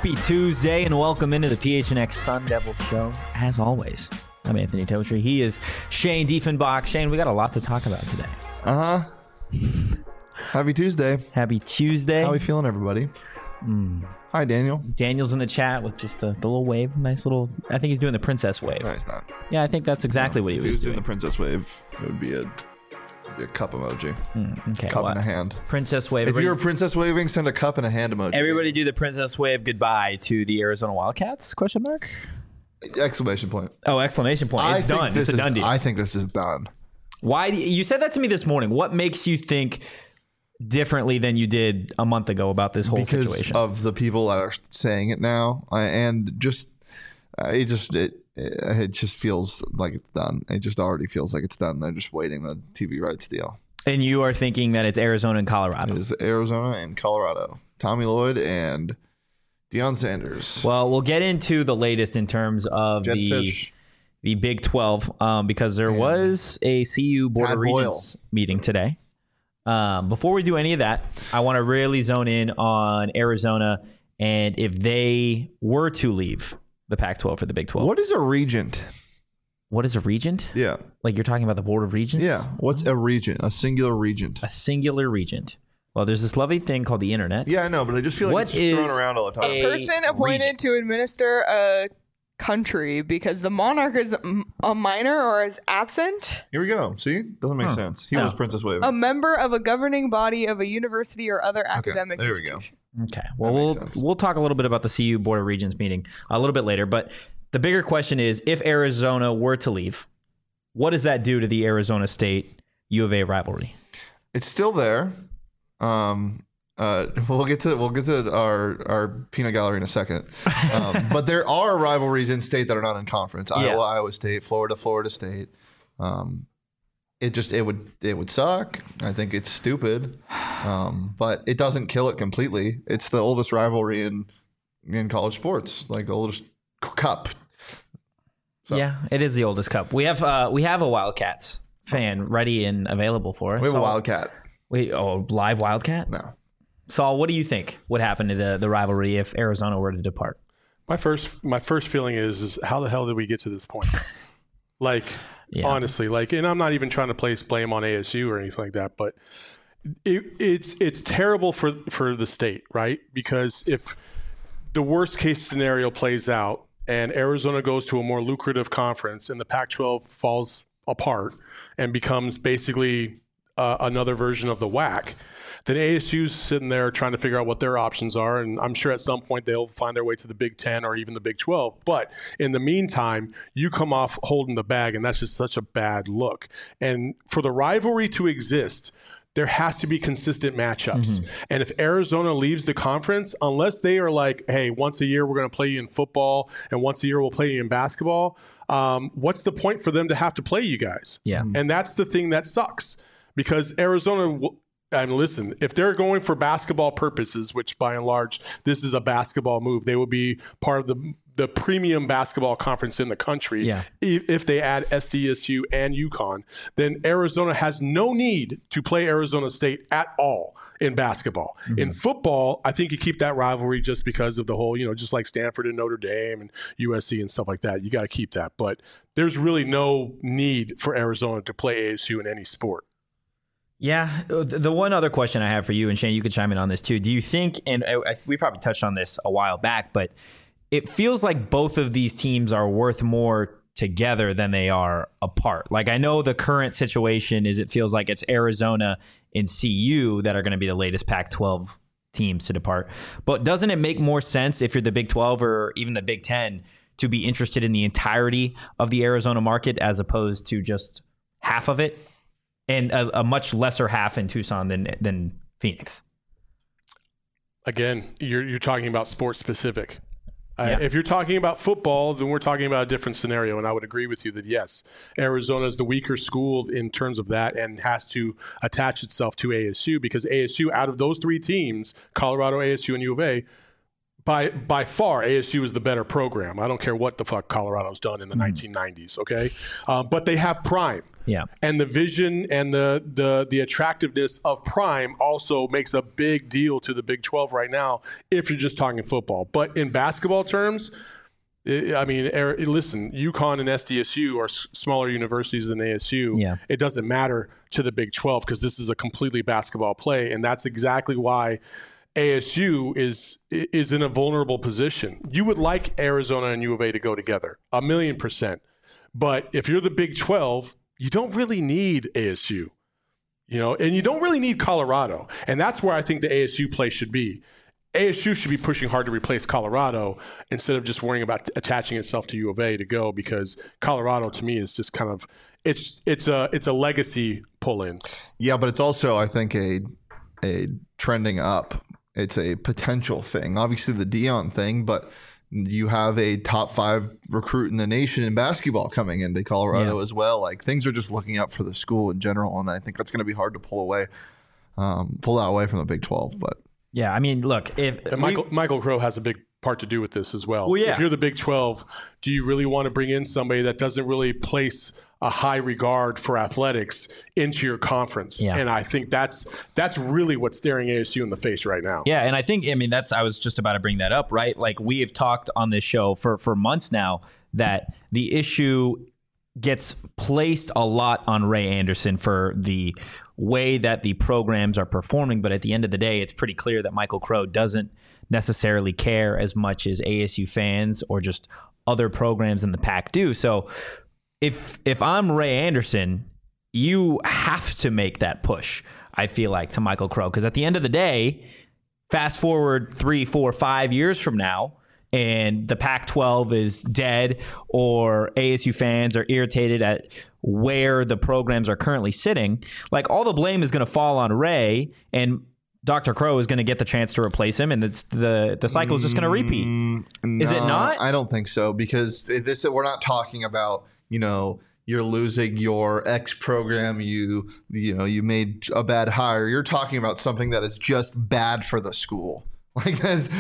Happy Tuesday and welcome into the PHNX Sun Devil Show. As always, I'm Anthony Totri. He is Shane Diefenbach. Shane, we got a lot to talk about today. Happy Tuesday. Happy Tuesday. How are we feeling, everybody? Hi, Daniel. Daniel's in the chat with just the little wave. Nice little, I think he's doing the princess wave. No, he's not. Yeah, I think that's exactly what he was doing. The princess wave, it would be a cup emoji. Okay, cup in a hand. Princess wave. If you were princess waving, send a cup and a hand emoji. Everybody do the princess wave goodbye to the Arizona Wildcats? Question mark? Exclamation point. Oh, exclamation point. It's done. It's a done deal. I think this is done. Why you said that to me this morning? What makes you think differently than you did a month ago about this whole situation? Because of the people that are saying it now, and just it just feels like it's done. It just already feels like it's done. They're just waiting the TV rights deal. And you are thinking that it's Arizona and Colorado. It is Arizona and Colorado. Tommy Lloyd and Deion Sanders. Well, we'll get into the latest in terms of Jetfish. the Big 12 because there was a CU Board of Regents meeting today. Before we do any of that, I want to really zone in on Arizona and if they were to leave the Pac-12 for the Big 12. What is a regent? What is a regent? Yeah. Like you're talking about the Board of Regents? Yeah. What's a regent? A singular regent. A singular regent. Well, there's this lovely thing called the internet. Yeah, I know, but I just feel like it's just thrown around all the time. A person appointed to administer a country because the monarch is a minor or is absent. Here we go. See? Doesn't make sense. He was Princess Wave. A member of a governing body of a university or other academic institution. Okay. Well, we'll talk a little bit about the CU Board of Regents meeting a little bit later, but the bigger question is if Arizona were to leave, what does that do to the Arizona State U of A rivalry? It's still there. We'll get to our peanut gallery in a second. But there are rivalries in state that are not in conference. Iowa State, Florida State. It would suck. I think it's stupid. But it doesn't kill it completely. It's the oldest rivalry in college sports, like the oldest cup. So. Yeah, it is the oldest cup. We have a Wildcats fan ready and available for us. We have a Wildcat. Live Wildcat? No. Saul, what do you think would happen to the rivalry if Arizona were to depart? My first feeling is how the hell did we get to this point? Honestly, and I'm not even trying to place blame on ASU or anything like that, but it's terrible for the state, right? Because if the worst case scenario plays out and Arizona goes to a more lucrative conference and the Pac-12 falls apart and becomes basically another version of the WAC, then ASU's sitting there trying to figure out what their options are, and I'm sure at some point they'll find their way to the Big 10 or even the Big 12. But in the meantime, you come off holding the bag, and that's just such a bad look. And for the rivalry to exist, there has to be consistent matchups. Mm-hmm. And if Arizona leaves the conference, unless they are like, hey, once a year we're going to play you in football and once a year we'll play you in basketball, what's the point for them to have to play you guys? Yeah. And that's the thing that sucks because Arizona and listen, if they're going for basketball purposes, which by and large, this is a basketball move, they will be part of the premium basketball conference in the country. Yeah. If they add SDSU and UConn, then Arizona has no need to play Arizona State at all in basketball. Mm-hmm. In football, I think you keep that rivalry just because of the whole, just like Stanford and Notre Dame and USC and stuff like that. You got to keep that. But there's really no need for Arizona to play ASU in any sport. Yeah. The one other question I have for you, and Shane, you could chime in on this too. Do you think, and we probably touched on this a while back, but it feels like both of these teams are worth more together than they are apart. Like I know the current situation is it feels like it's Arizona and CU that are going to be the latest Pac-12 teams to depart. But doesn't it make more sense if you're the Big 12 or even the Big 10 to be interested in the entirety of the Arizona market as opposed to just half of it? And a much lesser half in Tucson than Phoenix. Again, you're talking about sports specific. Yeah. If you're talking about football, then we're talking about a different scenario, and I would agree with you that yes, Arizona is the weaker school in terms of that and has to attach itself to ASU because ASU, out of those three teams, Colorado, ASU, and U of A, by far, ASU is the better program. I don't care what the fuck Colorado's done in the 1990s, okay? But they have Prime. Yeah. And the vision and the attractiveness of Prime also makes a big deal to the Big 12 right now if you're just talking football. But in basketball terms, I mean, listen, UConn and SDSU are smaller universities than ASU. Yeah. It doesn't matter to the Big 12 because this is a completely basketball play, and that's exactly why ASU is in a vulnerable position. You would like Arizona and U of A to go together, 1,000,000%. But if you're the Big 12, you don't really need ASU, and you don't really need Colorado. And that's where I think the ASU play should be. ASU should be pushing hard to replace Colorado instead of just worrying about attaching itself to U of A to go, because Colorado to me is just kind of it's a legacy pull in. Yeah, but it's also, I think, a trending up. It's a potential thing. Obviously the Dion thing, but you have a top 5 recruit in the nation in basketball coming into Colorado as well. Like, things are just looking up for the school in general, and I think that's going to be hard to pull that away from the Big 12. But yeah, I mean, look, if Michael Crow has a big part to do with this as well. Well, yeah. If you're the Big 12, do you really want to bring in somebody that doesn't really place a high regard for athletics into your conference? Yeah. And I think that's really what's staring ASU in the face right now. Yeah, and I was just about to bring that up, right? Like, we have talked on this show for months now that the issue gets placed a lot on Ray Anderson for the way that the programs are performing, but at the end of the day, it's pretty clear that Michael Crow doesn't necessarily care as much as ASU fans or just other programs in the Pac do. So if I'm Ray Anderson, you have to make that push, I feel like, to Michael Crow, because at the end of the day, fast forward 3, 4, 5 years from now, and the Pac-12 is dead, or ASU fans are irritated at where the programs are currently sitting, like, all the blame is going to fall on Ray, and Dr. Crow is going to get the chance to replace him, and the cycle is just going to repeat. Is it not? I don't think so, because we're not talking about, you're losing your X program, you made a bad hire. You're talking about something that is just bad for the school. Like,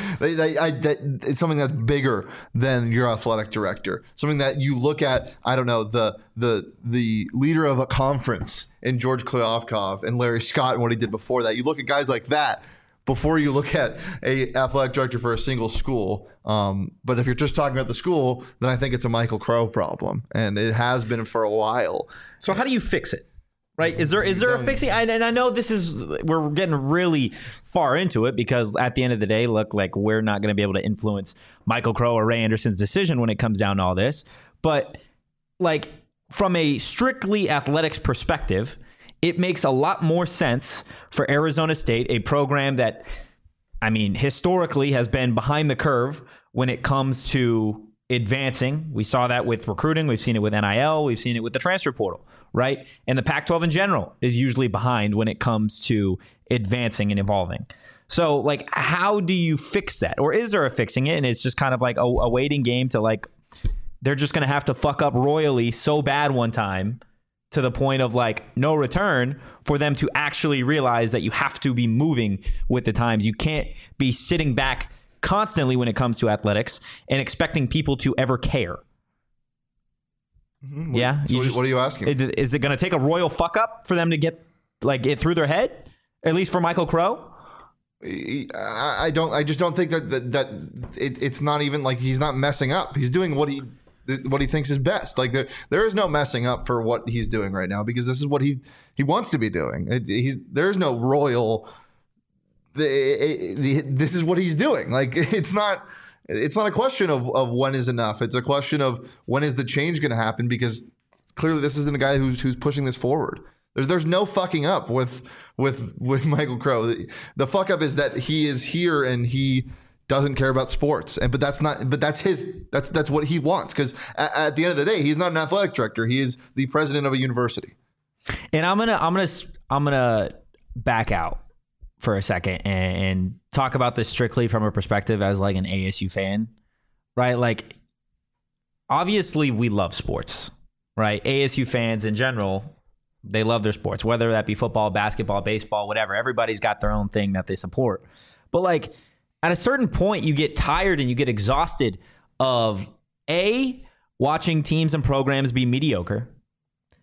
it's something that's bigger than your athletic director. Something that you look at, I don't know, the leader of a conference in George Kliavkoff and Larry Scott and what he did before that. You look at guys like that before you look at a athletic director for a single school. But if you're just talking about the school, then I think it's a Michael Crow problem, and it has been for a while. So how do you fix it? Right? Is there a fixing? And I know we're getting really far into it, because at the end of the day, look, like, we're not going to be able to influence Michael Crow or Ray Anderson's decision when it comes down to all this. But, like, from a strictly athletics perspective, it makes a lot more sense for Arizona State, a program that, I mean, historically has been behind the curve when it comes to advancing. We saw that with recruiting. We've seen it with NIL. We've seen it with the transfer portal, right? And the Pac-12 in general is usually behind when it comes to advancing and evolving. So, like, how do you fix that? Or is there a fixing it, and it's just kind of like a waiting game to, like, they're just going to have to fuck up royally so bad one time to the point of, like, no return for them to actually realize that you have to be moving with the times. You can't be sitting back constantly when it comes to athletics and expecting people to ever care. Mm-hmm. Yeah. So what are you asking? Is it going to take a royal fuck up for them to get, like, it through their head? At least for Michael Crow? I just don't think that it's not even like he's not messing up. He's doing what he thinks is best. Like, there is no messing up for what he's doing right now, because this is what he wants to be doing. There's no royal. This is what he's doing. Like, it's not a question of when is enough. It's a question of when is the change going to happen, because clearly this isn't a guy who's pushing this forward. There's no fucking up with Michael Crow. The fuck up is that he is here and he doesn't care about sports. But that's what he wants, because at the end of the day, he's not an athletic director. He is the president of a university. And I'm gonna back out for a second and talk about this strictly from a perspective as, like, an ASU fan, right? Like, obviously we love sports, right? ASU fans in general, they love their sports, whether that be football, basketball, baseball, whatever. Everybody's got their own thing that they support. But, like, at a certain point, you get tired and you get exhausted of watching teams and programs be mediocre,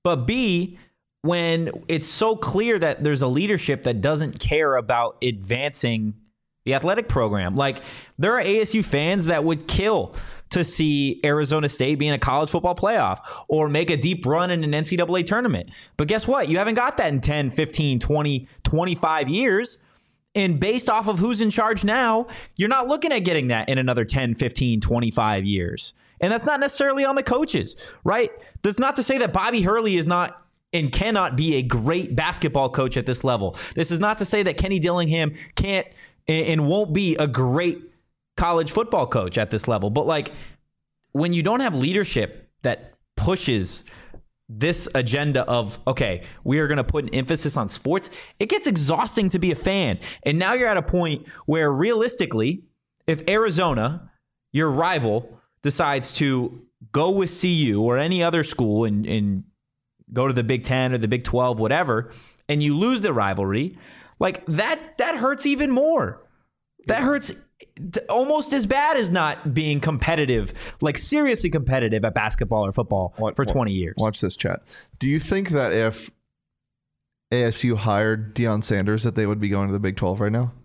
but B, when it's so clear that there's a leadership that doesn't care about advancing the athletic program. Like, there are ASU fans that would kill to see Arizona State be in a college football playoff or make a deep run in an NCAA tournament. But guess what? You haven't got that in 10, 15, 20, 25 years. And based off of who's in charge now, you're not looking at getting that in another 10, 15, 25 years. And that's not necessarily on the coaches, right? That's not to say that Bobby Hurley is not and cannot be a great basketball coach at this level. This is not to say that Kenny Dillingham can't and won't be a great college football coach at this level. But like, when you don't have leadership that pushes this agenda of, okay, we are going to put an emphasis on sports, it gets exhausting to be a fan. And now you're at a point where realistically, if Arizona, your rival, decides to go with CU or any other school and go to the Big 10 or the Big 12, whatever, and you lose the rivalry, like that hurts even more. That hurts almost as bad as not being competitive, like seriously competitive at basketball or football for 20 years. Watch this, chat. Do you think that if ASU hired Deion Sanders that they would be going to the Big 12 right now?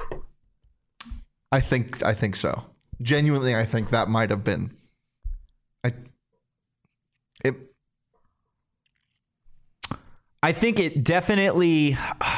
I think so. Genuinely, I think that might have been. I think it definitely,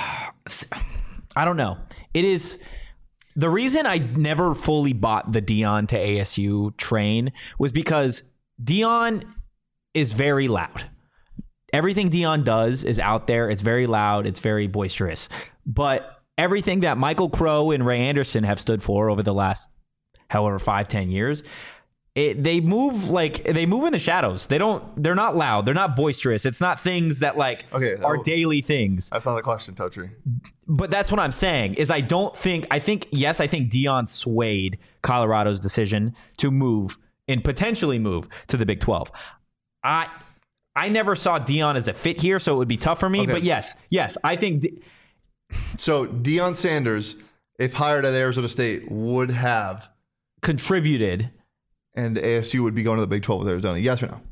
I don't know. It is the reason I never fully bought the Deion to ASU train was because Deion is very loud. Everything Deion does is out there. It's very loud. It's very boisterous. But everything that Michael Crow and Ray Anderson have stood for over the last, however, 5-10 years, they move in the shadows. They're not loud. They're not boisterous. It's not things that are daily things. That's not the question, Totri. But that's what I'm saying is I think Deion swayed Colorado's decision to move and potentially move to the Big 12. I never saw Deion as a fit here, so it would be tough for me. Okay. But yes, I think. So Deion Sanders, if hired at Arizona State, would have contributed. And ASU would be going to the Big 12 with Arizona. Yes or no?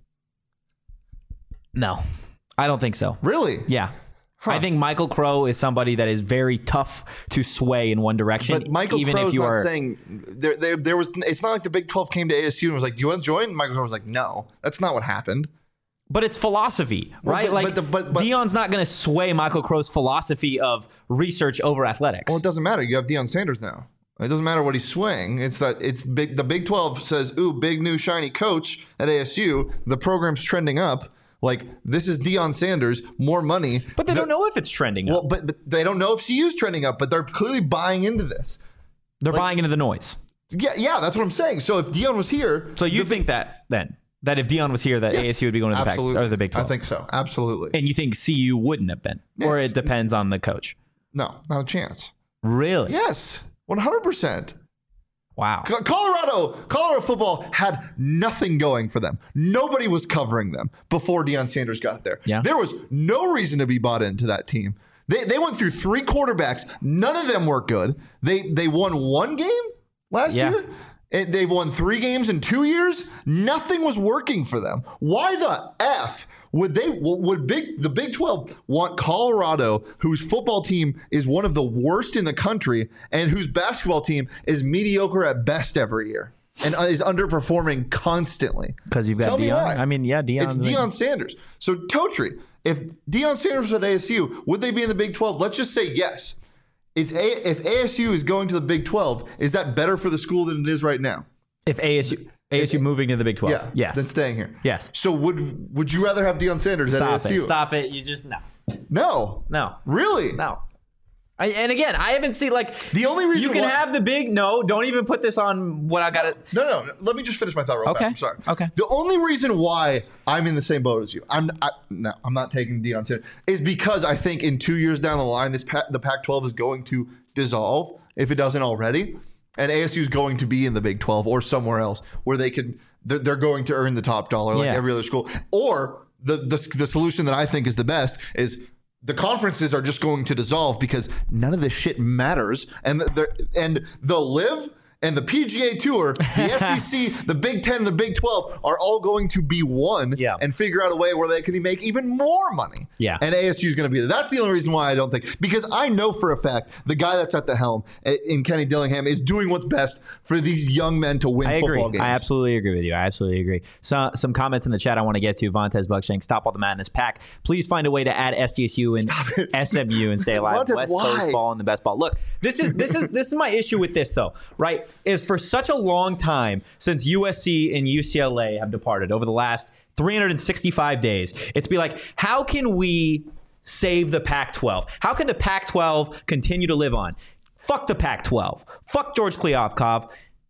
No, I don't think so. Really? Yeah. Huh. I think Michael Crow is somebody that is very tough to sway in one direction. But Michael Crow's not saying there was. It's not like the Big 12 came to ASU and was like, "Do you want to join?" Michael Crow was like, "No." That's not what happened. But it's philosophy, right? But Deion's not going to sway Michael Crow's philosophy of research over athletics. Well, it doesn't matter. You have Deion Sanders now. It doesn't matter what he's swaying. It's that it's big. The Big 12 says, "Ooh, big new shiny coach at ASU. The program's trending up. Like, this is Deion Sanders, more money." But they don't know if it's trending up. Well, but they don't know if CU's trending up. But they're clearly buying into this. They're buying into the noise. Yeah, that's what I'm saying. So if Deion was here, so you think that if Deion was here, that ASU would be going to the Big 12? I think so. Absolutely. And you think CU wouldn't have been, or it depends on the coach? No, not a chance. Really? Yes. 100%. Wow. Colorado football had nothing going for them. Nobody was covering them before Deion Sanders got there. Yeah. There was no reason to be bought into that team. They went through 3 quarterbacks. None of them were good. They won 1 game last year. They've won 3 games in 2 years. Nothing was working for them. Why the F would the Big 12 want Colorado, whose football team is one of the worst in the country and whose basketball team is mediocre at best every year and is underperforming constantly? Because you've got Deion. I mean, Deion. It's Deion Sanders. So Totri, if Deion Sanders was at ASU, would they be in the Big 12? Let's just say yes. If ASU is going to the Big 12, is that better for the school than it is right now? If ASU moving to the Big 12, yes. Then staying here. Yes. So would you rather have Deion Sanders at ASU? Stop it. You just, No. Really? No. And again, I haven't seen the only reason you can have the big. No, don't even put this on what I got to. No. Let me just finish my thought real fast. I'm sorry. Okay. The only reason why I'm in the same boat as you, I'm not taking Deion Sanders, is because I think in 2 years down the line, the Pac-12 is going to dissolve if it doesn't already, and ASU is going to be in the Big 12 or somewhere else where they're going to earn the top dollar like every other school. Or the solution that I think is the best is the conferences are just going to dissolve because none of this shit matters, and they'll live And the PGA Tour, the SEC, the Big Ten, the Big 12 are all going to be one and figure out a way where they can make even more money. Yeah. And ASU is going to be there. That's the only reason why I don't think, because I know for a fact the guy that's at the helm in Kenny Dillingham is doing what's best for these young men to win football games. I absolutely agree with you. I absolutely agree. So, some comments in the chat I want to get to. Vontez Buckshank, stop all the madness. Pack, please find a way to add SDSU and SMU and stay alive. Vontez, West why? Coast ball and the best ball. Look, this is my issue with this though, right? Is for such a long time since USC and UCLA have departed over the last 365 days, it's be like, how can we save the Pac-12? How can the Pac-12 continue to live on? Fuck the Pac-12. Fuck George Kliavkoff.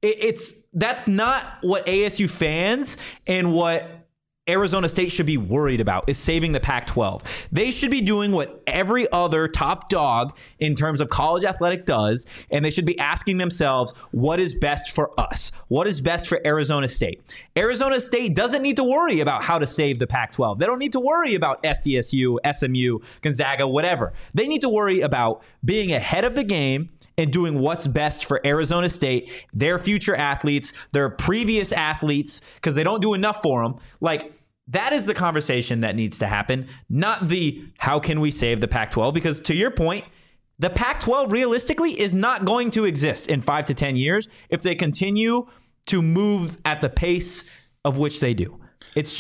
That's not what ASU fans and what Arizona State should be worried about, is saving the Pac-12. They should be doing what every other top dog in terms of college athletic does, and they should be asking themselves, what is best for us? What is best for Arizona State? Arizona State doesn't need to worry about how to save the Pac-12. They don't need to worry about SDSU, SMU, Gonzaga, whatever. They need to worry about being ahead of the game and doing what's best for Arizona State, their future athletes, their previous athletes, because they don't do enough for them. Like, that is the conversation that needs to happen, not the how can we save the Pac-12? Because to your point, the Pac-12 realistically is not going to exist in 5 to 10 years if they continue to move at the pace of which they do. It's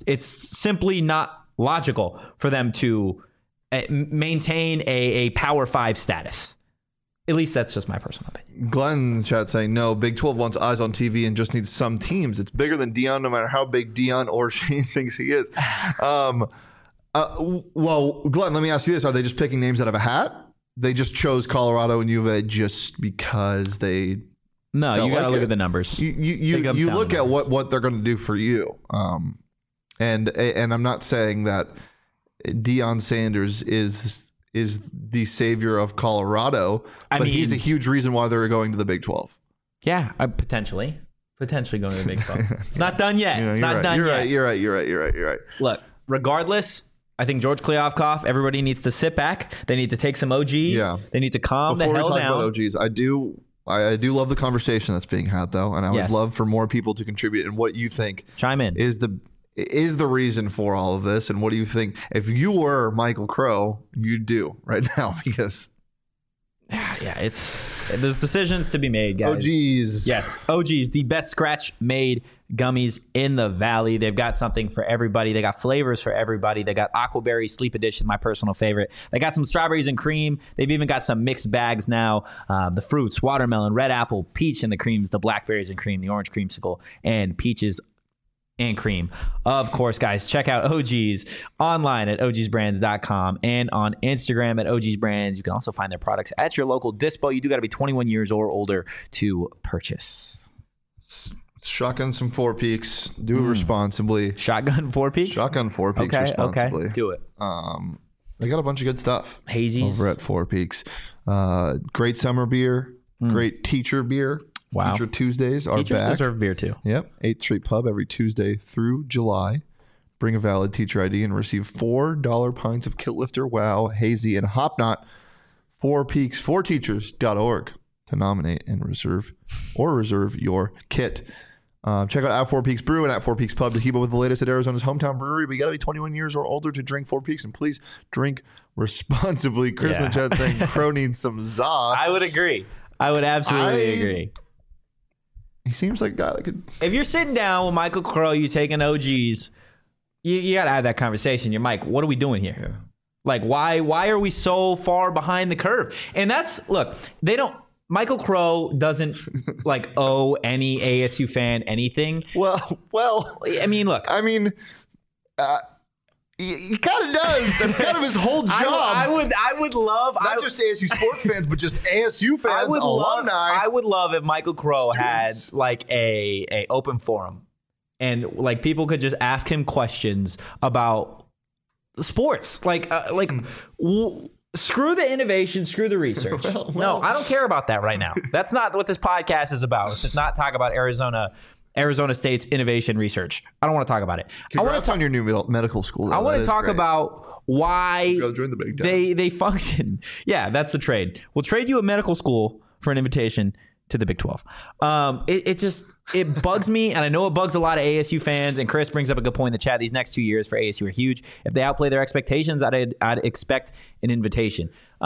simply not logical for them to maintain a Power 5 status. At least that's just my personal opinion. Glenn in the chat saying, no, Big 12 wants eyes on TV and just needs some teams. It's bigger than Dion, no matter how big Dion or Shane thinks he is. Well, Glenn, let me ask you this. Are they just picking names out of a hat? They just chose Colorado and U of A just because they... No, you got to look at the numbers. You look at what they're going to do for you. And I'm not saying that Deion Sanders is the savior of Colorado, but he's a huge reason why they're going to the Big 12. Yeah, potentially going to the Big 12. It's not done yet. It's not done yet. You're right. Look, regardless, I think George Kliavkoff, everybody needs to sit back. They need to take some OGs. Yeah. They need to calm the hell down. Before we talk about OGs, I do love the conversation that's being had, though, and I would love for more people to contribute. And what you think chime in is the reason for all of this, and what do you think if you were Michael Crow you'd do right now? Because there's decisions to be made, guys. OGs. Yes, OGs, the best scratch made gummies in the valley. They've got something for everybody. They got flavors for everybody. They got Aquaberry Sleep Edition, my personal favorite. They got some strawberries and cream. They've even got some mixed bags now. The fruits, watermelon, red apple, peach and the creams, the blackberries and cream, the orange creamsicle, and peaches and cream. Of course, guys, check out OGs online at ogsbrands.com and on Instagram at ogsbrands. You can also find their products at your local dispo. You do got to be 21 years or older to purchase. Shotgun some Four Peaks. Do it responsibly. Shotgun Four Peaks? Shotgun Four Peaks responsibly. Okay. Do it. They got a bunch of good stuff. Hazies. Over at Four Peaks. Great summer beer. Great teacher beer. Wow. Teacher Tuesdays are Teachers back. deserve beer too. Yep. 8th Street Pub every Tuesday through July. Bring a valid teacher ID and receive $4 pints of Kilt Lifter, Wow, Hazy, and Hop Knot. 4 Peaks, 4teachers.org to nominate and reserve your kit. Check out at 4 Peaks Brew and at 4 Peaks Pub to keep up with the latest at Arizona's hometown brewery. But you got to be 21 years or older to drink 4 Peaks, and please drink responsibly. Chris in the chat saying Crow needs some za. I would agree. I would absolutely agree. He seems like a guy that could... If you're sitting down with Michael Crow, you taking OGs, you got to have that conversation. You're Mike, what are we doing here? Yeah. Like, why are we so far behind the curve? And Michael Crow doesn't owe any ASU fan anything. Well, I mean, look. He kind of does. That's kind of his whole job. I would love not just ASU sports fans, but just ASU fans, alumni. I would love if Michael Crow had a open forum, and people could just ask him questions about sports. Screw the innovation, screw the research. No, I don't care about that right now. That's not what this podcast is about. It's not talk about Arizona State's innovation research. I don't want to talk about it. Congrats on your new medical school, though. I want to talk about why join the Big Ten. they function. Yeah, that's the trade. We'll trade you a medical school for an invitation to the Big 12. It bugs me, and I know it bugs a lot of ASU fans. And Chris brings up a good point in the chat. These next 2 years for ASU are huge. If they outplay their expectations, I'd expect an invitation.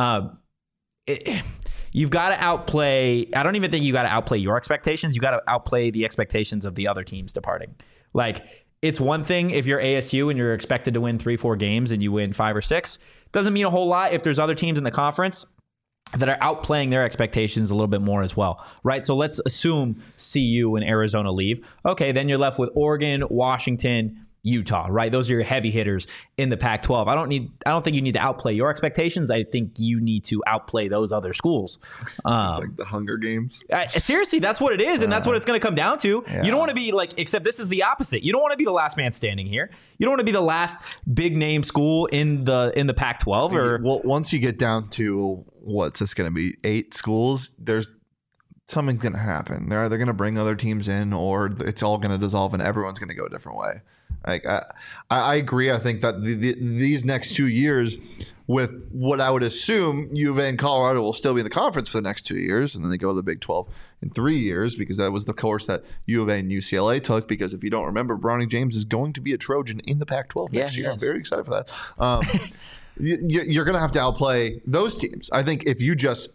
You've got to outplay. I don't even think you got to outplay your expectations. You got to outplay the expectations of the other teams departing. Like, it's one thing if you're ASU and you're expected to win 3-4 games and you win 5 or 6. Doesn't mean a whole lot if there's other teams in the conference that are outplaying their expectations a little bit more as well, right? So let's assume CU and Arizona leave. Okay, then you're left with Oregon, Washington, Utah, right? Those are your heavy hitters in the Pac-12. I don't think you need to outplay your expectations. I think you need to outplay those other schools. It's like the Hunger Games. Seriously, that's what it is, and that's what it's going to come down to. Yeah. You don't want to be like, except this is the opposite. You don't want to be the last man standing here. You don't want to be the last big name school in the Pac-12. Or Well, once you get down to what's this going to be, 8 schools, there's something's going to happen. They're either going to bring other teams in, or it's all going to dissolve and everyone's going to go a different way. Like I agree. I think that these next 2 years, with what I would assume U of A and Colorado will still be in the conference for the next 2 years, and then they go to the Big 12 in 3 years, because that was the course that U of A and UCLA took. Because if you don't remember, Bronny James is going to be a Trojan in the Pac-12 next year. I'm very excited for that. You're going to have to outplay those teams. I think if you just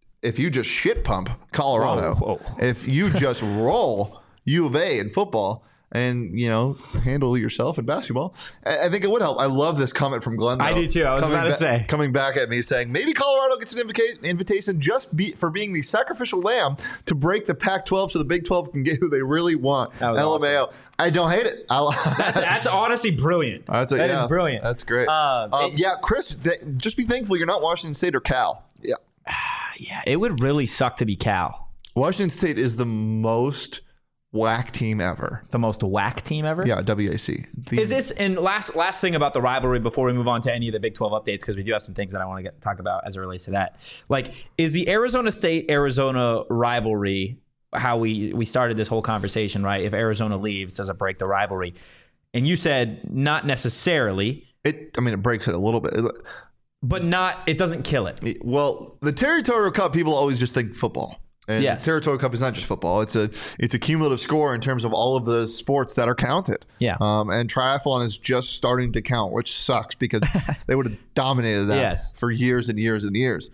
shit pump Colorado, if you just roll U of A in football, and handle yourself in basketball, I think it would help. I love this comment from Glenn, though. I do too. I was about to say, coming back at me saying maybe Colorado gets an invitation for being the sacrificial lamb to break the Pac-12 so the Big 12 can get who they really want. LMAO. Awesome. I don't hate it. That's honestly brilliant. That is brilliant. That's great. Chris, just be thankful you're not Washington State or Cal. Yeah. Yeah, it would really suck to be Cal. Washington State is the most whack team ever. The most whack team ever? Yeah, WAC. Is this, and last thing about the rivalry before we move on to any of the Big 12 updates, because we do have some things that I want to talk about as it relates to that. Like, is the Arizona State-Arizona rivalry, how we started this whole conversation, right? If Arizona leaves, does it break the rivalry? And you said not necessarily. It breaks it a little bit. But it doesn't kill it. Well, the Territorial Cup, people always just think football. And the Territorial Cup is not just football. It's a cumulative score in terms of all of the sports that are counted. Yeah. And triathlon is just starting to count, which sucks because they would have dominated that for years and years and years.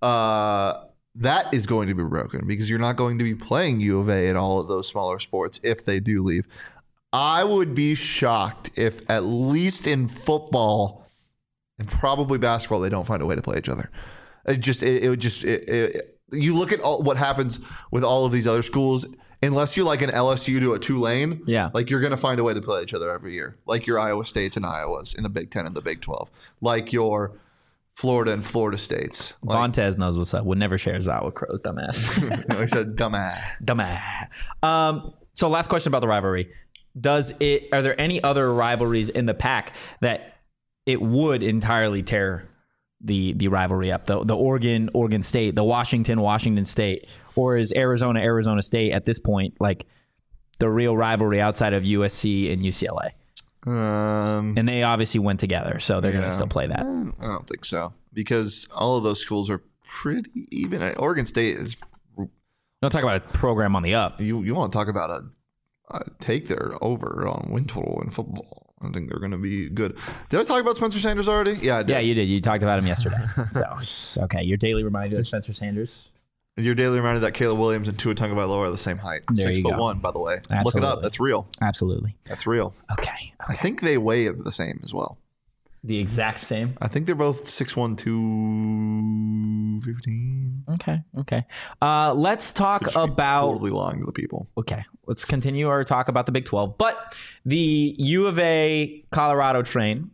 That is going to be broken because you're not going to be playing U of A in all of those smaller sports if they do leave. I would be shocked if, at least in football and probably basketball, they don't find a way to play each other. You look at what happens with all of these other schools, unless you're like an LSU to a Tulane, like you're going to find a way to play each other every year. Like your Iowa States and Iowas in the Big 10 and the Big 12. Like your Florida and Florida States. Vontez knows what's up. Would never share his out with Crows, dumbass. No, he said dumbass. Dumbass. So last question about the rivalry. Are there any other rivalries in the Pac that it would entirely tear the rivalry up? The Oregon State, the Washington State, or is Arizona State at this point like the real rivalry outside of USC and UCLA? And they obviously went together, so they're going to still play that. I don't think so, because all of those schools are pretty even. Oregon State is. Don't talk about a program on the up. You want to talk about a take their over on win total in football. I think they're going to be good. Did I talk about Spencer Sanders already? Yeah, I did. Yeah, you did. You talked about him yesterday. So it's okay. Your daily reminder of Spencer Sanders. Your daily reminder that Caleb Williams and Tua Tagovailoa are the same height. There 6'1", by the way. Absolutely. Look it up. That's real. Absolutely. That's real. Okay. I think they weigh the same as well. The exact same? I think they're both 6'1", 215. Okay. Let's talk about... Totally lying to the people. Okay. Let's continue our talk about the Big 12. But the U of A Colorado train...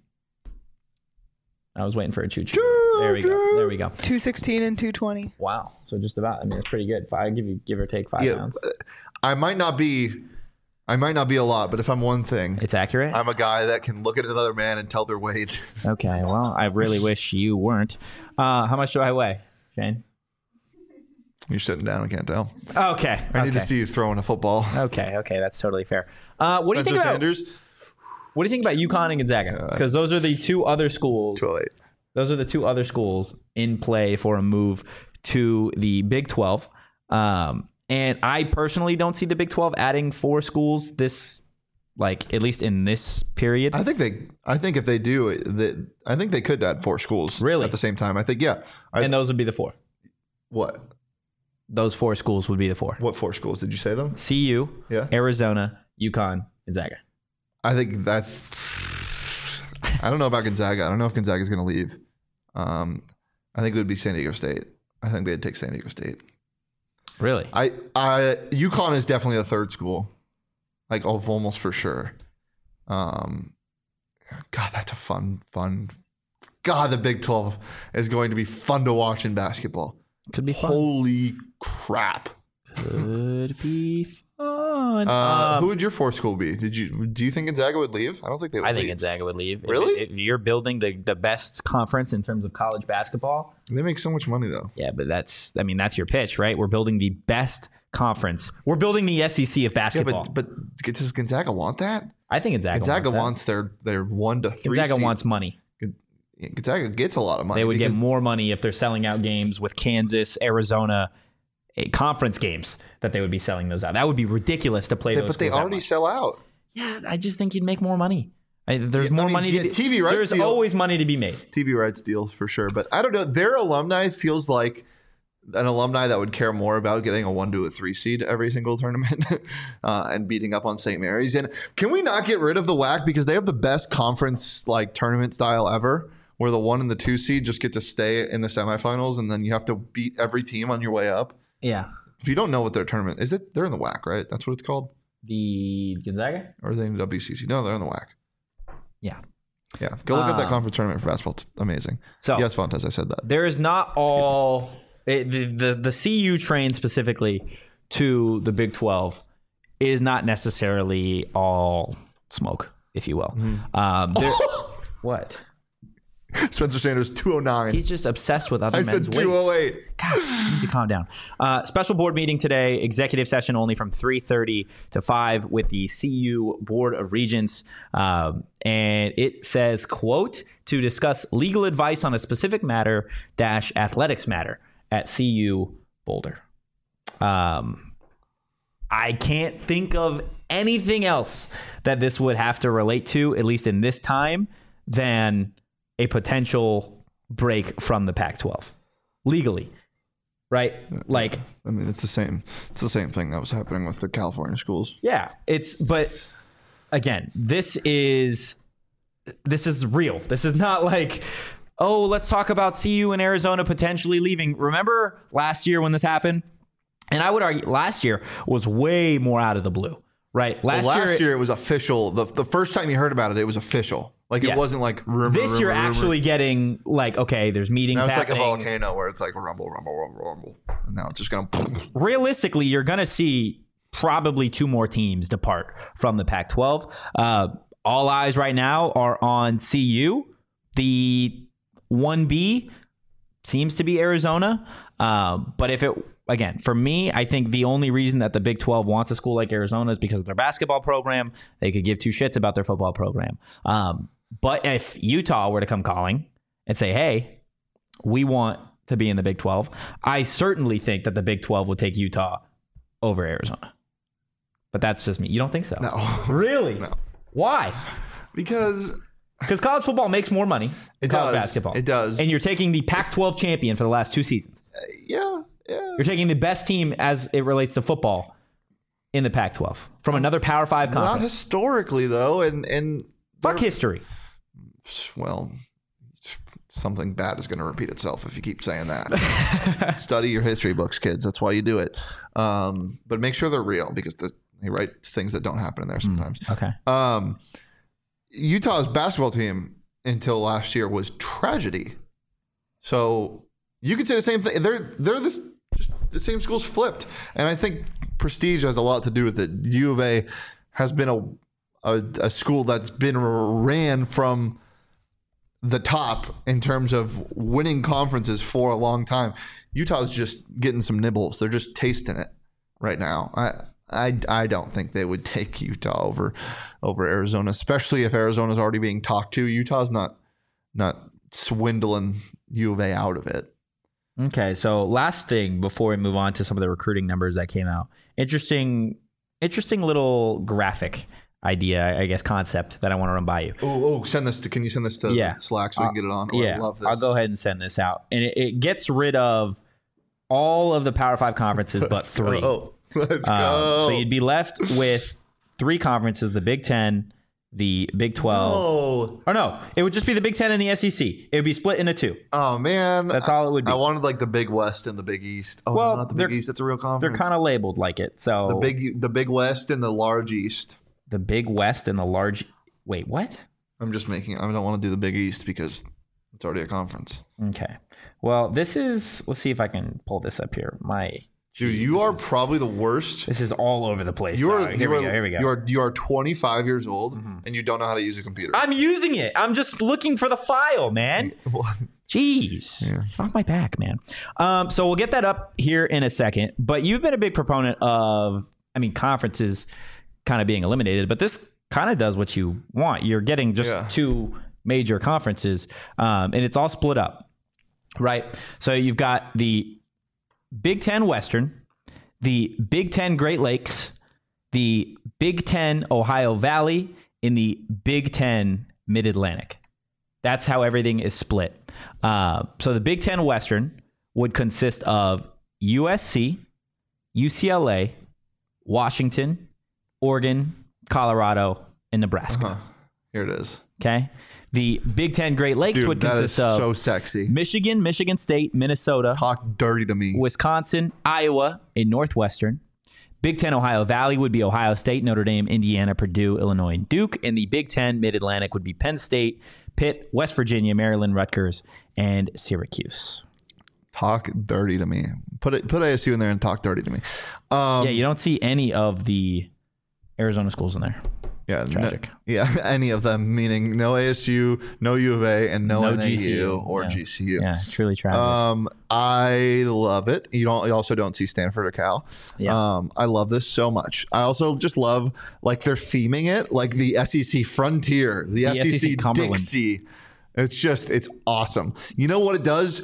I was waiting for a choo-choo. There we go. 216 and 220. Wow. So just about. I mean, it's pretty good. I give or take 5 pounds. I might not be a lot, but if I'm one thing, it's accurate. I'm a guy that can look at another man and tell their weight. Okay. Well, I really wish you weren't. How much do I weigh, Shane? You're sitting down. I can't tell. Okay. I need to see you throwing a football. Okay. That's totally fair. What do you think about Sanders? What do you think about UConn and Gonzaga? Because those are the two other schools. 208. Those are the two other schools in play for a move to the Big 12. And And I personally don't see the Big 12 adding 4 schools this, like, at least in this period. I think if they do, I think they could add 4 schools Really? at the same time. I think, yeah. And those would be the 4. What? Those 4 schools would be the 4. What 4 schools? Did you say them? CU, Yeah. Arizona, UConn, Gonzaga. I think that. I don't know about Gonzaga. I don't know if Gonzaga is going to leave. I think it would be San Diego State. I think they'd take San Diego State. Really? UConn is definitely a 3rd school, like almost for sure. God, that's a fun. God, the Big 12 is going to be fun to watch in basketball. Could be fun. Holy crap! Could be fun. Who would your 4th school be? Do you think Gonzaga would leave? I don't think they would. I think leave. Gonzaga would leave. Really? If you're building the best conference in terms of college basketball, They make so much money though. yeah, but that's your pitch, right? We're building the best conference. We're building the SEC of Yeah, basketball. but does Gonzaga want that? I think Gonzaga wants their 1 to 3. Gonzaga seed. wants money. Gonzaga gets a lot of money. They would get because more money if they're selling out games with Kansas, Arizona, conference games that they would be selling those out. That would be ridiculous to play those. but they schools that already much. sell out. Yeah, I just think you'd make more money. There's more money. Yeah, to be, TV rights There's deal. always money to be made. TV rights deals for sure, but I don't know. Their alumni feels like an alumni that would care more about getting a 1 to a 3 seed every single tournament and beating up on St. Mary's. And can we not get rid of the WAC because they have the best conference like tournament style ever, where the 1 and the 2 seed just get to stay in the semifinals, and then you have to beat every team on your way up. Yeah. If you don't know what their tournament is, they're in the WAC, right? That's what it's called. The Gonzaga? Or are they in the WCC? No, they're in the WAC. Yeah. Yeah, go look up that conference tournament for basketball. It's amazing. So Yes, Fontes, I said that. there is not all the CU train specifically to the Big 12 is not necessarily all smoke, if you will. What? Spencer Sanders, 209. He's just obsessed with other I men's said weight. 208. God, you need to calm down. Special board meeting today, executive session only from 3:30 to 5 with the CU Board of Regents. And it says, quote, to discuss legal advice on a specific matter - athletics matter at CU Boulder. I can't think of anything else that this would have to relate to, at least in this time, than a potential break from the Pac-12 legally, right? Like, I mean, it's the same thing that was happening with the California schools. yeah, but again, this is real. This is not like, oh, let's talk about CU and Arizona potentially leaving. Remember last year when this happened? And I would argue last year was way more out of the blue, right? Last year it was official. The first time you heard about it, it was official. Like Yes. It wasn't like rumor. This year rumor. actually getting like, okay, there's meetings Now it's happening. like a volcano where it's like rumble, rumble, rumble, rumble. And now it's just going to. Realistically, you're going to see probably 2 more teams depart from the Pac-12. All eyes right now are on CU. The 1B seems to be Arizona. But if it, again, for me, I think the only reason that the Big 12 wants a school like Arizona is because of their basketball program. They could give 2 shits about their football program. But if Utah were to come calling and say, hey, we want to be in the Big 12, I certainly think that the Big 12 would take Utah over Arizona. But that's just me. You don't think so? No. Really? No. Why? Because college football makes more money than college basketball. It does. And you're taking the Pac-12 champion for the last 2 seasons. Yeah. You're taking the best team as it relates to football in the Pac-12 from another Power 5 Not conference. historically, though. And Fuck history. well, something bad is going to repeat itself if you keep saying that. Study your history books, kids. That's why you do it. But make sure they're real because they write things that don't happen in there sometimes. Okay. Utah's basketball team until last year was tragedy. So you could say the same thing. They're just the same schools flipped, and I think prestige has a lot to do with it. U of A has been a school that's been ran from the top in terms of winning conferences for a long time. Utah's just getting some nibbles. They're just tasting it right now. I don't think they would take Utah over Arizona, especially if Arizona's already being talked to. Utah's not swindling U of A out of it. Okay, so last thing before we move on to some of the recruiting numbers that came out. Interesting little graphic idea, I guess, concept that I want to run by you. Can you send this to Slack so we can get it on? I love this. I'll go ahead and send this out. And it gets rid of all of the Power 5 conferences but 3. Let's go. So you'd be left with 3 conferences, the Big 10, the Big 12. Or no, it would just be the Big 10 and the SEC. It would be split into 2. Oh, man. That's all it would be. I wanted like the Big West and the Big East. Oh, well, no, not the Big East. It's a real conference. They're kind of labeled like it. So the Big West and the Large East. The Big West and the Large... Wait, what? I don't want to do the Big East because it's already a conference. Okay. Well, this is... Let's see if I can pull this up here. Dude, you are probably the worst. This is all over the place. Here we go. You are 25 years old and you don't know how to use a computer. I'm using it. I'm just looking for the file, man. Jeez. Yeah. Off my back, man. So we'll get that up here in a second. But you've been a big proponent of, conferences kind of being eliminated. But this kind of does what you want. You're getting just 2 major conferences, and it's all split up, right? So you've got the Big 10 Western, the Big 10 Great Lakes, the Big 10 Ohio Valley, and the Big 10 Mid-Atlantic. That's how everything is split. So the Big 10 Western would consist of USC, UCLA, Washington, Oregon, Colorado, and Nebraska. Here it is. Okay. The Big 10 Great Lakes would consist of so sexy. Michigan, Michigan State, Minnesota. Talk dirty to me. Wisconsin, Iowa, and Northwestern. Big 10 Ohio Valley would be Ohio State, Notre Dame, Indiana, Purdue, Illinois, and Duke. And the Big 10 Mid-Atlantic would be Penn State, Pitt, West Virginia, Maryland, Rutgers, and Syracuse. Talk dirty to me. Put ASU in there and talk dirty to me. You don't see any of the Arizona schools in there. Yeah, tragic. Any of them, meaning no ASU, no U of A, and no NAU GCU or GCU. Yeah, truly tragic. I love it. You also don't see Stanford or Cal. Yeah. I love this so much. I also just love like they're theming it like the SEC Frontier, the SEC Dixie. It's awesome. You know what it does?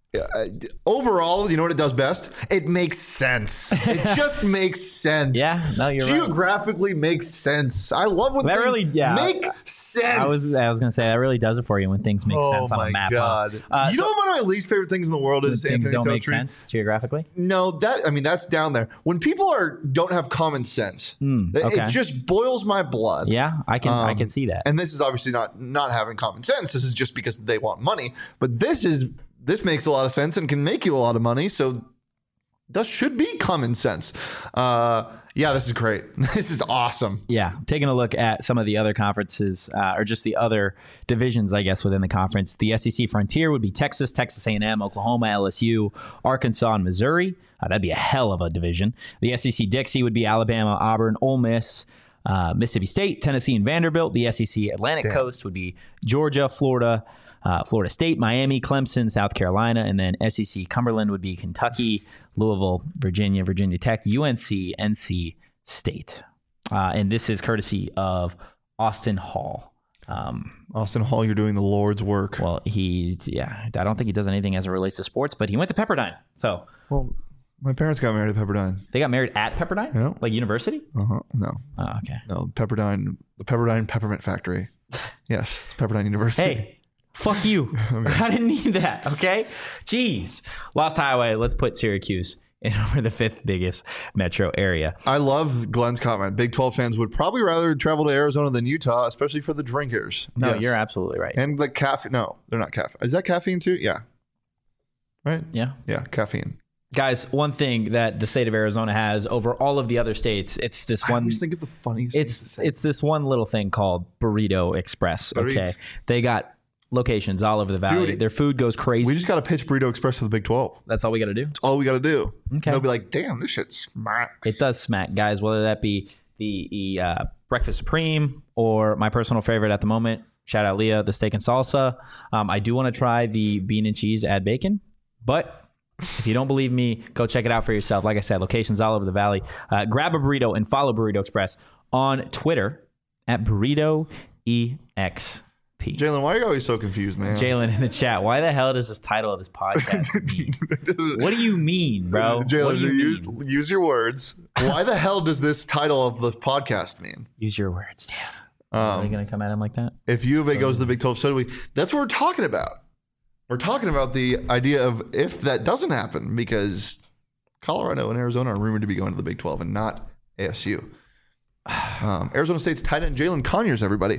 Overall, you know what it does best? It makes sense. It just makes sense. Yeah, no, you're right. Geographically makes sense. I love when that things really make sense. I was going to say that really does it for you when things make sense on a map. Oh my God! You know one of my least favorite things in the world is things Anthony don't Totri. Make sense geographically. No, that's down there. When people don't have common sense, it just boils my blood. Yeah, I can see that. And this is obviously not having common sense. This is just because they want money. But this makes a lot of sense and can make you a lot of money. So that should be common sense. This is great. This is awesome. Yeah. Taking a look at some of the other conferences or just the other divisions, I guess, within the conference. The SEC Frontier would be Texas, Texas A&M, Oklahoma, LSU, Arkansas, and Missouri. That'd be a hell of a division. The SEC Dixie would be Alabama, Auburn, Ole Miss, Mississippi State, Tennessee, and Vanderbilt. The SEC Atlantic Coast would be Georgia, Florida, Florida State, Miami, Clemson, South Carolina, and then SEC Cumberland would be Kentucky, Louisville, Virginia, Virginia Tech, UNC, NC State. And this is courtesy of Austin Hall. Austin Hall, you're doing the Lord's work. Well, I don't think he does anything as it relates to sports, but he went to Pepperdine. So, well, my parents got married at Pepperdine. They got married at Pepperdine? Yeah. Like university? No. Oh, okay. No, Pepperdine, the Pepperdine Peppermint Factory. Yes, Pepperdine University. Hey. Fuck you. I didn't need that, okay? Jeez. Lost Highway, let's put Syracuse in over the 5th biggest metro area. I love Glenn's comment. Big 12 fans would probably rather travel to Arizona than Utah, especially for the drinkers. No, You're absolutely right. And the caffeine. No, they're not caffeine. Is that caffeine too? Yeah. Right? Yeah. Yeah, caffeine. Guys, one thing that the state of Arizona has over all of the other states, it's this one. I always think of the funniest things to say. It's this one little thing called Burrito Express, okay? They got locations all over the valley. Dude, their food goes crazy. We just got to pitch Burrito Express to the Big 12. That's all we got to do? That's all we got to do. Okay. They'll be like, damn, this shit smacks. It does smack, guys, whether that be the Breakfast Supreme or my personal favorite at the moment, shout out Leah, the steak and salsa. I do want to try the bean and cheese add bacon, but if you don't believe me, go check it out for yourself. Like I said, locations all over the valley. Grab a burrito and follow Burrito Express on Twitter at BurritoEXP. Pete. Jalen, why are you always so confused, man? Jalen in the chat. Why the hell does this title of this podcast mean? What do you mean, bro? What do Jalen, you mean? use your words. Why the hell does this title of the podcast mean? Use your words. Damn. Are you going to come at him like that? If U of A goes to the Big 12, so do we. That's what we're talking about. We're talking about the idea of if that doesn't happen, because Colorado and Arizona are rumored to be going to the Big 12 and not ASU. Arizona State's tight end Jalen Conyers, everybody.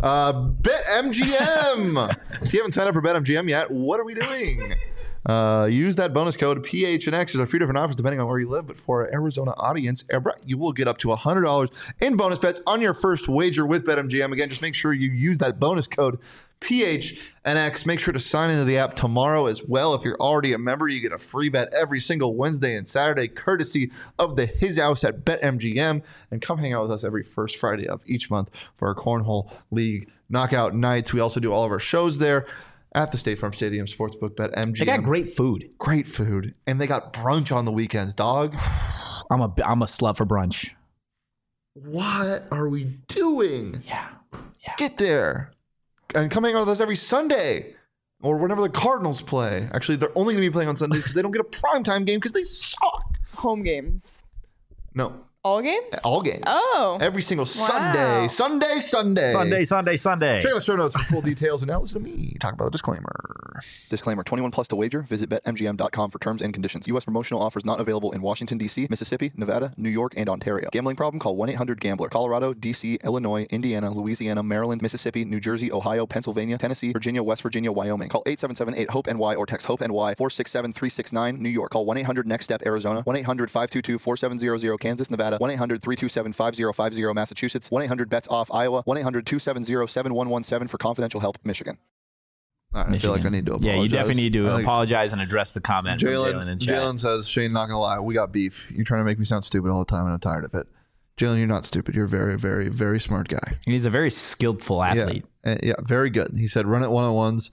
BetMGM. If you haven't signed up for BetMGM yet, what are we doing? Use that bonus code PHNX. There's a few different offers depending on where you live, but for our Arizona audience, you will get up to $100 in bonus bets on your first wager with BetMGM. Again, just make sure you use that bonus code PHNX. Make sure to sign into the app tomorrow as well. If you're already a member, you get a free bet every single Wednesday and Saturday, courtesy of the His House at BetMGM. And come hang out with us every first Friday of each month for our Cornhole League knockout nights. We also do all of our shows there at the State Farm Stadium Sportsbook. BetMGM. They got great food. Great food. And they got brunch on the weekends, dog. I'm a slut for brunch. What are we doing? Yeah. Get there. And come hang out with us every Sunday or whenever the Cardinals play. Actually, they're only going to be playing on Sundays because they don't get a primetime game because they suck. Home games. No. All games? All games. Oh. Every single Wow. Sunday. Sunday. Check out the show notes for full details. And now listen to me talk about the disclaimer. Disclaimer, 21 plus to wager. Visit BetMGM.com for terms and conditions. U.S. promotional offers not available in Washington, D.C., Mississippi, Nevada, New York, and Ontario. Gambling problem? Call 1-800-GAMBLER. Colorado, D.C., Illinois, Indiana, Louisiana, Maryland, Mississippi, New Jersey, Ohio, Pennsylvania, Tennessee, Virginia, West Virginia, Wyoming. Call 877-8-HOPE-NY or text HOPE-NY 467-369, New York. Call 1-800-NEXT-STEP, Arizona. 1-800-522-4700, Kansas, Nevada. 1-800-327-5050, Massachusetts. 1-800-BETS-OFF, Iowa. 1-800-270-7117 for confidential help, Michigan. All right, I feel like I need to apologize. Yeah, you definitely need to apologize and address the comment from Jalen in chat. Jalen says, Shane, not going to lie, we got beef. You're trying to make me sound stupid all the time, and I'm tired of it. Jalen, you're not stupid. You're a very, very, very smart guy. He's a very skillful athlete. Yeah, very good. He said, run it one-on-ones.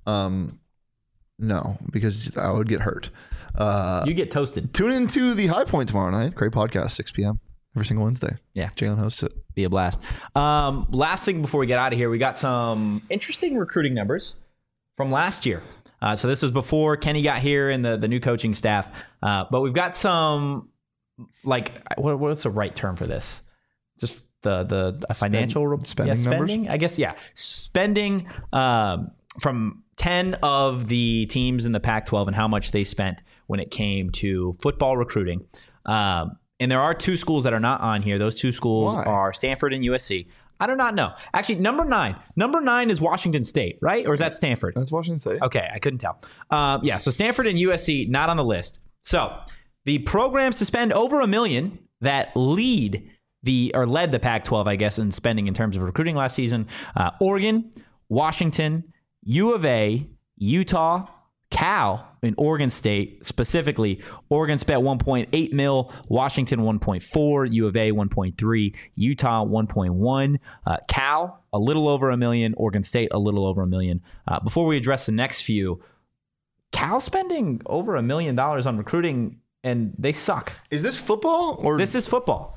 No, because I would get hurt. You get toasted. Tune into the High Point tomorrow night. Great podcast, 6 p.m. every single Wednesday. Yeah. Jalen hosts it. Be a blast. Last thing before we get out of here, we got some interesting recruiting numbers from last year. So this was before Kenny got here and the new coaching staff. But we've got some, like, what's the right term for this? Just the financial spending numbers? I guess, yeah. Spending from 10 of the teams in the Pac-12 and how much they spent when it came to football recruiting. And there are two schools that are not on here. Those two schools are Stanford and USC. I do not know. Actually, number nine is Washington State, right? Or is that Stanford? That's Washington State. Okay, I couldn't tell. So Stanford and USC not on the list. So the programs to spend over $1 million that led the Pac-12, I guess, in spending in terms of recruiting last season: Oregon, Washington, U of A, Utah, Cal, and Oregon State. Specifically, Oregon spent $1.8 million, Washington $1.4 million, U of A $1.3 million, Utah $1.1 million, Cal a little over $1 million, Oregon State a little over $1 million. Before we address the next few, Cal spending over $1 million on recruiting, and they suck. Is this football or this is football?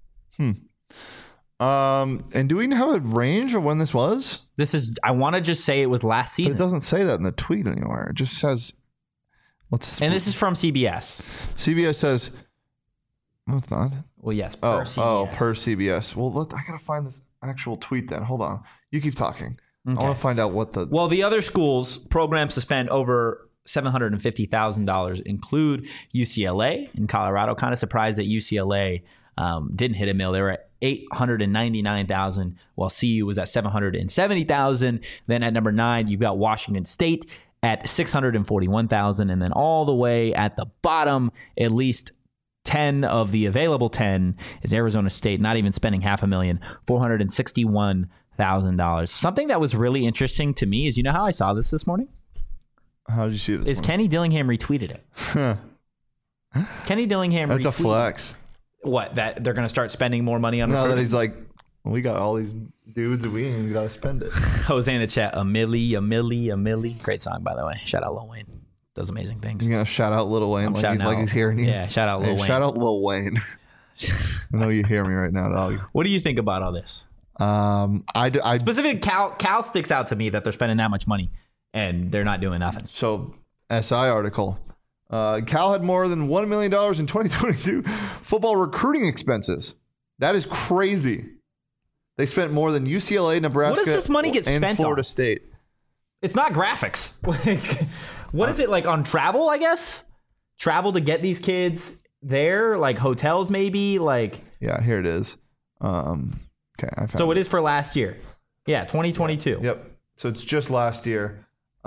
And do we have a range of when this was? This is. I want to just say it was last season. But it doesn't say that in the tweet anywhere. It just says. And this is from CBS. CBS says. No, it's not. Well, yes. Per CBS. Per CBS. Well, I gotta find this actual tweet then. Hold on. You keep talking. Okay. I want to find out what the. Well, the other schools programs to spend over $750,000 include UCLA in Colorado. Kind of surprised that UCLA didn't hit $1 million. They were at $899,000, while CU was at $770,000. Then at number 9, you've got Washington State at $641,000, and then all the way at the bottom, at least 10 of the available 10 is Arizona State, not even spending $500,000, $461,000. Something that was really interesting to me is, you know how I saw this morning? How did you see this? Kenny Dillingham retweeted it. Kenny Dillingham. That's a flex. What, that they're going to start spending more money on? No, that he's like, well, we got all these dudes and we got to spend it. Jose in the chat, a milli. Great song, by the way. Shout out Lil Wayne. Does amazing things. He's gonna shout out Lil Wayne like he's hearing you. Yeah, shout out Lil Wayne. Shout out Lil Wayne. I know you hear me right now, dog. What do you think about all this? Specifically, Cal sticks out to me that they're spending that much money and they're not doing nothing. So, SI article. Cal had more than $1 million in 2022 football recruiting expenses. That is crazy. They spent more than UCLA, Nebraska, What does this money get and spent Florida on? State. It's not graphics. Like, what is it, like on travel, I guess? Travel to get these kids there, like hotels maybe, like. Yeah, here it is. Okay, I found So it is for last year. Yeah, 2022. Yep. So it's just last year.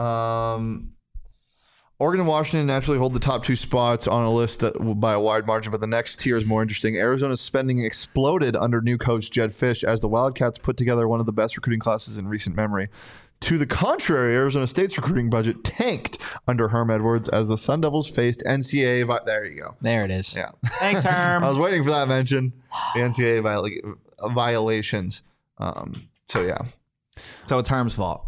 Oregon and Washington naturally hold the top 2 spots on a list that by a wide margin, but the next tier is more interesting. Arizona's spending exploded under new coach Jedd Fisch as the Wildcats put together one of the best recruiting classes in recent memory. To the contrary, Arizona State's recruiting budget tanked under Herm Edwards as the Sun Devils faced NCAA. There you go. There it is. Yeah. Thanks, Herm. I was waiting for that mention. The NCAA violations. So, yeah. So it's Herm's fault.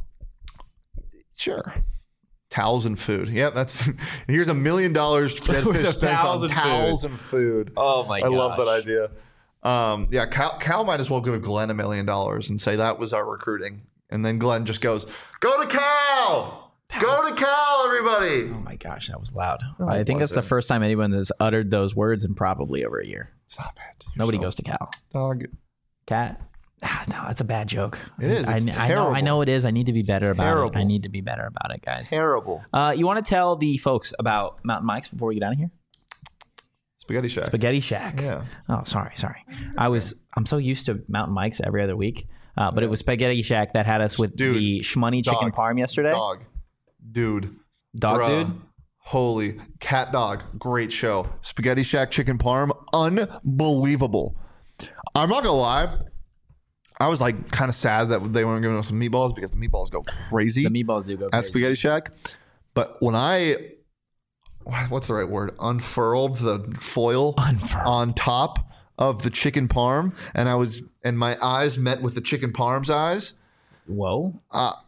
Sure. Towels and food. Yeah, that's here's $1 million Jedd Fisch spent on towels and food. Oh my god. I love that idea. Yeah, Cal might as well give Glenn $1 million and say that was our recruiting. And then Glenn just goes, "Go to Cal! Go to Cal, everybody!" Oh my gosh, that was loud. No, I it think that's the wasn't. first time anyone has uttered those words in probably over a year. Stop it. Nobody goes to Cal. Dog. Cat? No, that's a bad joke. It is. It's I know it is. I need to be better about Terrible. it. I need to be better about it, guys. Terrible. You want to tell the folks about Mountain Mike's before we get out of here? Spaghetti Shack. Spaghetti Shack. Yeah. Oh, sorry. I'm so used to Mountain Mike's every other week, but it was Spaghetti Shack that had us with Dude, the Shmoney chicken parm yesterday. Dog. Dude. Dog Bruh. dude. Holy cat dog. Great show. Spaghetti Shack chicken parm. Unbelievable. I'm not going to lie. I was like kind of sad that they weren't giving us some meatballs because the meatballs go crazy The meatballs do go at crazy. Spaghetti Shack. But when what's the right word? Unfurled the foil on top of the chicken parm, and my eyes met with the chicken parm's eyes. Whoa.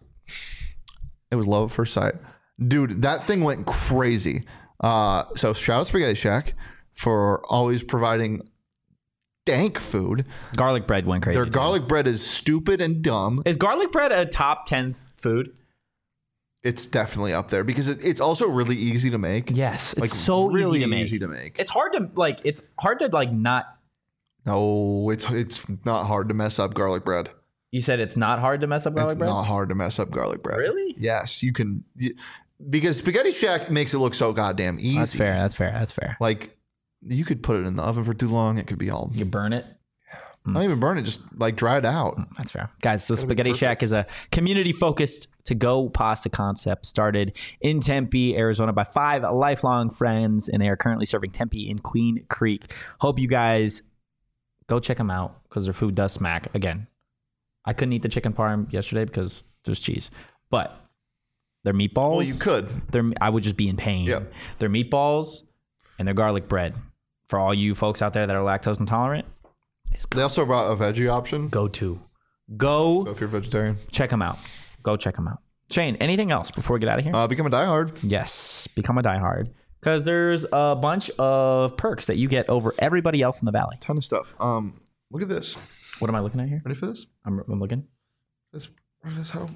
It was love at first sight. Dude, that thing went crazy. So shout out Spaghetti Shack for always providing dank food. Garlic bread went crazy. Their too. garlic bread is stupid and dumb. Is garlic bread a top 10 food? It's definitely up there because it's also really easy to make. Yes. It's Like so really easy to make. It's hard to not. No, it's not hard to mess up garlic bread. You said it's not hard to mess up garlic It's bread? not hard to mess up garlic bread. Really? Yes, you can. Because Spaghetti Shack makes it look so goddamn easy. That's fair. Like, you could put it in the oven for too long. It could be all. You burn it. Not even burn it, just like dry it out. That's fair. Guys, the Spaghetti Shack is a community-focused to-go pasta concept started in Tempe, Arizona by 5 lifelong friends, and they are currently serving Tempe in Queen Creek. Hope you guys go check them out because their food does smack. Again, I couldn't eat the chicken parm yesterday because there's cheese, but their meatballs... Well, you could. I would just be in pain. Yeah. Their meatballs and their garlic bread. For all you folks out there that are lactose intolerant, They also brought a veggie option. go So if you're vegetarian, check them out. Go check them out. Shane, anything else before we get out of here? become a diehard. Yes, become a diehard because there's a bunch of perks that you get over everybody else in the valley. Ton of stuff. Look at this. What am I looking at here? Ready for this? I'm looking. What is this? How?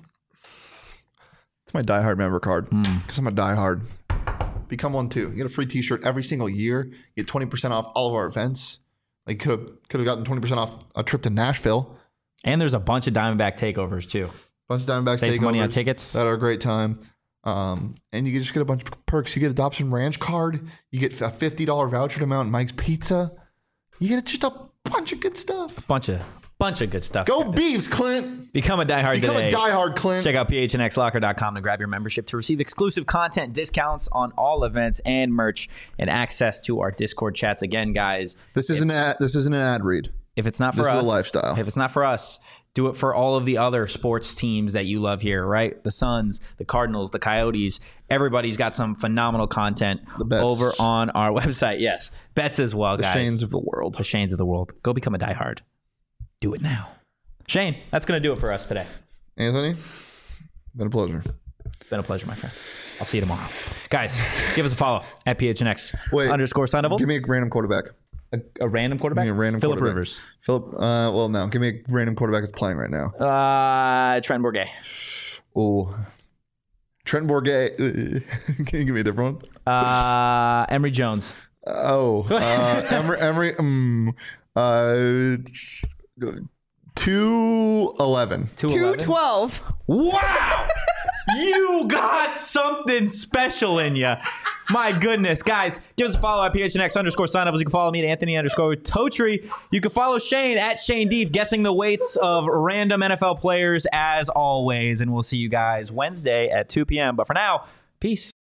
It's my diehard member card because I'm a diehard. Become one too. You get a free T-shirt every single year. You get 20% off all of our events. Like could have gotten 20% off a trip to Nashville. And there's a bunch of Diamondback takeovers too. Bunch of Diamondbacks Save some money on takeovers tickets. that are a great time. And you just get a bunch of perks. You get Adoption Ranch card. You get a $50 voucher to Mountain Mike's Pizza. You get just a bunch of good stuff. Bunch of good stuff. Go guys. Beavs, Clint. Become a diehard Become today. a diehard, Clint. Check out phnxlocker.com to grab your membership to receive exclusive content, discounts on all events and merch, and access to our Discord chats. Again, guys, This isn't an ad read. if it's not for This us, is a lifestyle. If it's not for us, do it for all of the other sports teams that you love here, right? The Suns, the Cardinals, the Coyotes. Everybody's got some phenomenal content Bets. over on our website. Yes, bets as well, The guys. Shanes of the world. The Shanes of the world. Go become a diehard. Do it now. Shane, that's going to do it for us today. Anthony, been a pleasure. It's been a pleasure, my friend. I'll see you tomorrow. Guys, give us a follow at PHNX Wait, _Sun Devils. Give me a random quarterback. A random quarterback? Give me a random Phillip quarterback. Rivers. Well, no. Give me a random quarterback that's playing right now. Trent Bourget. Oh, Trent Bourget. Can you give me a different one? Emory Jones. Oh, Emory. 211. 212. Wow! You got something special in you. My goodness. Guys, give us a follow at PHNX_signups. You can follow me at Anthony_Totri. You can follow Shane at Shane Deef, guessing the weights of random NFL players as always. And we'll see you guys Wednesday at 2 p.m. But for now, peace.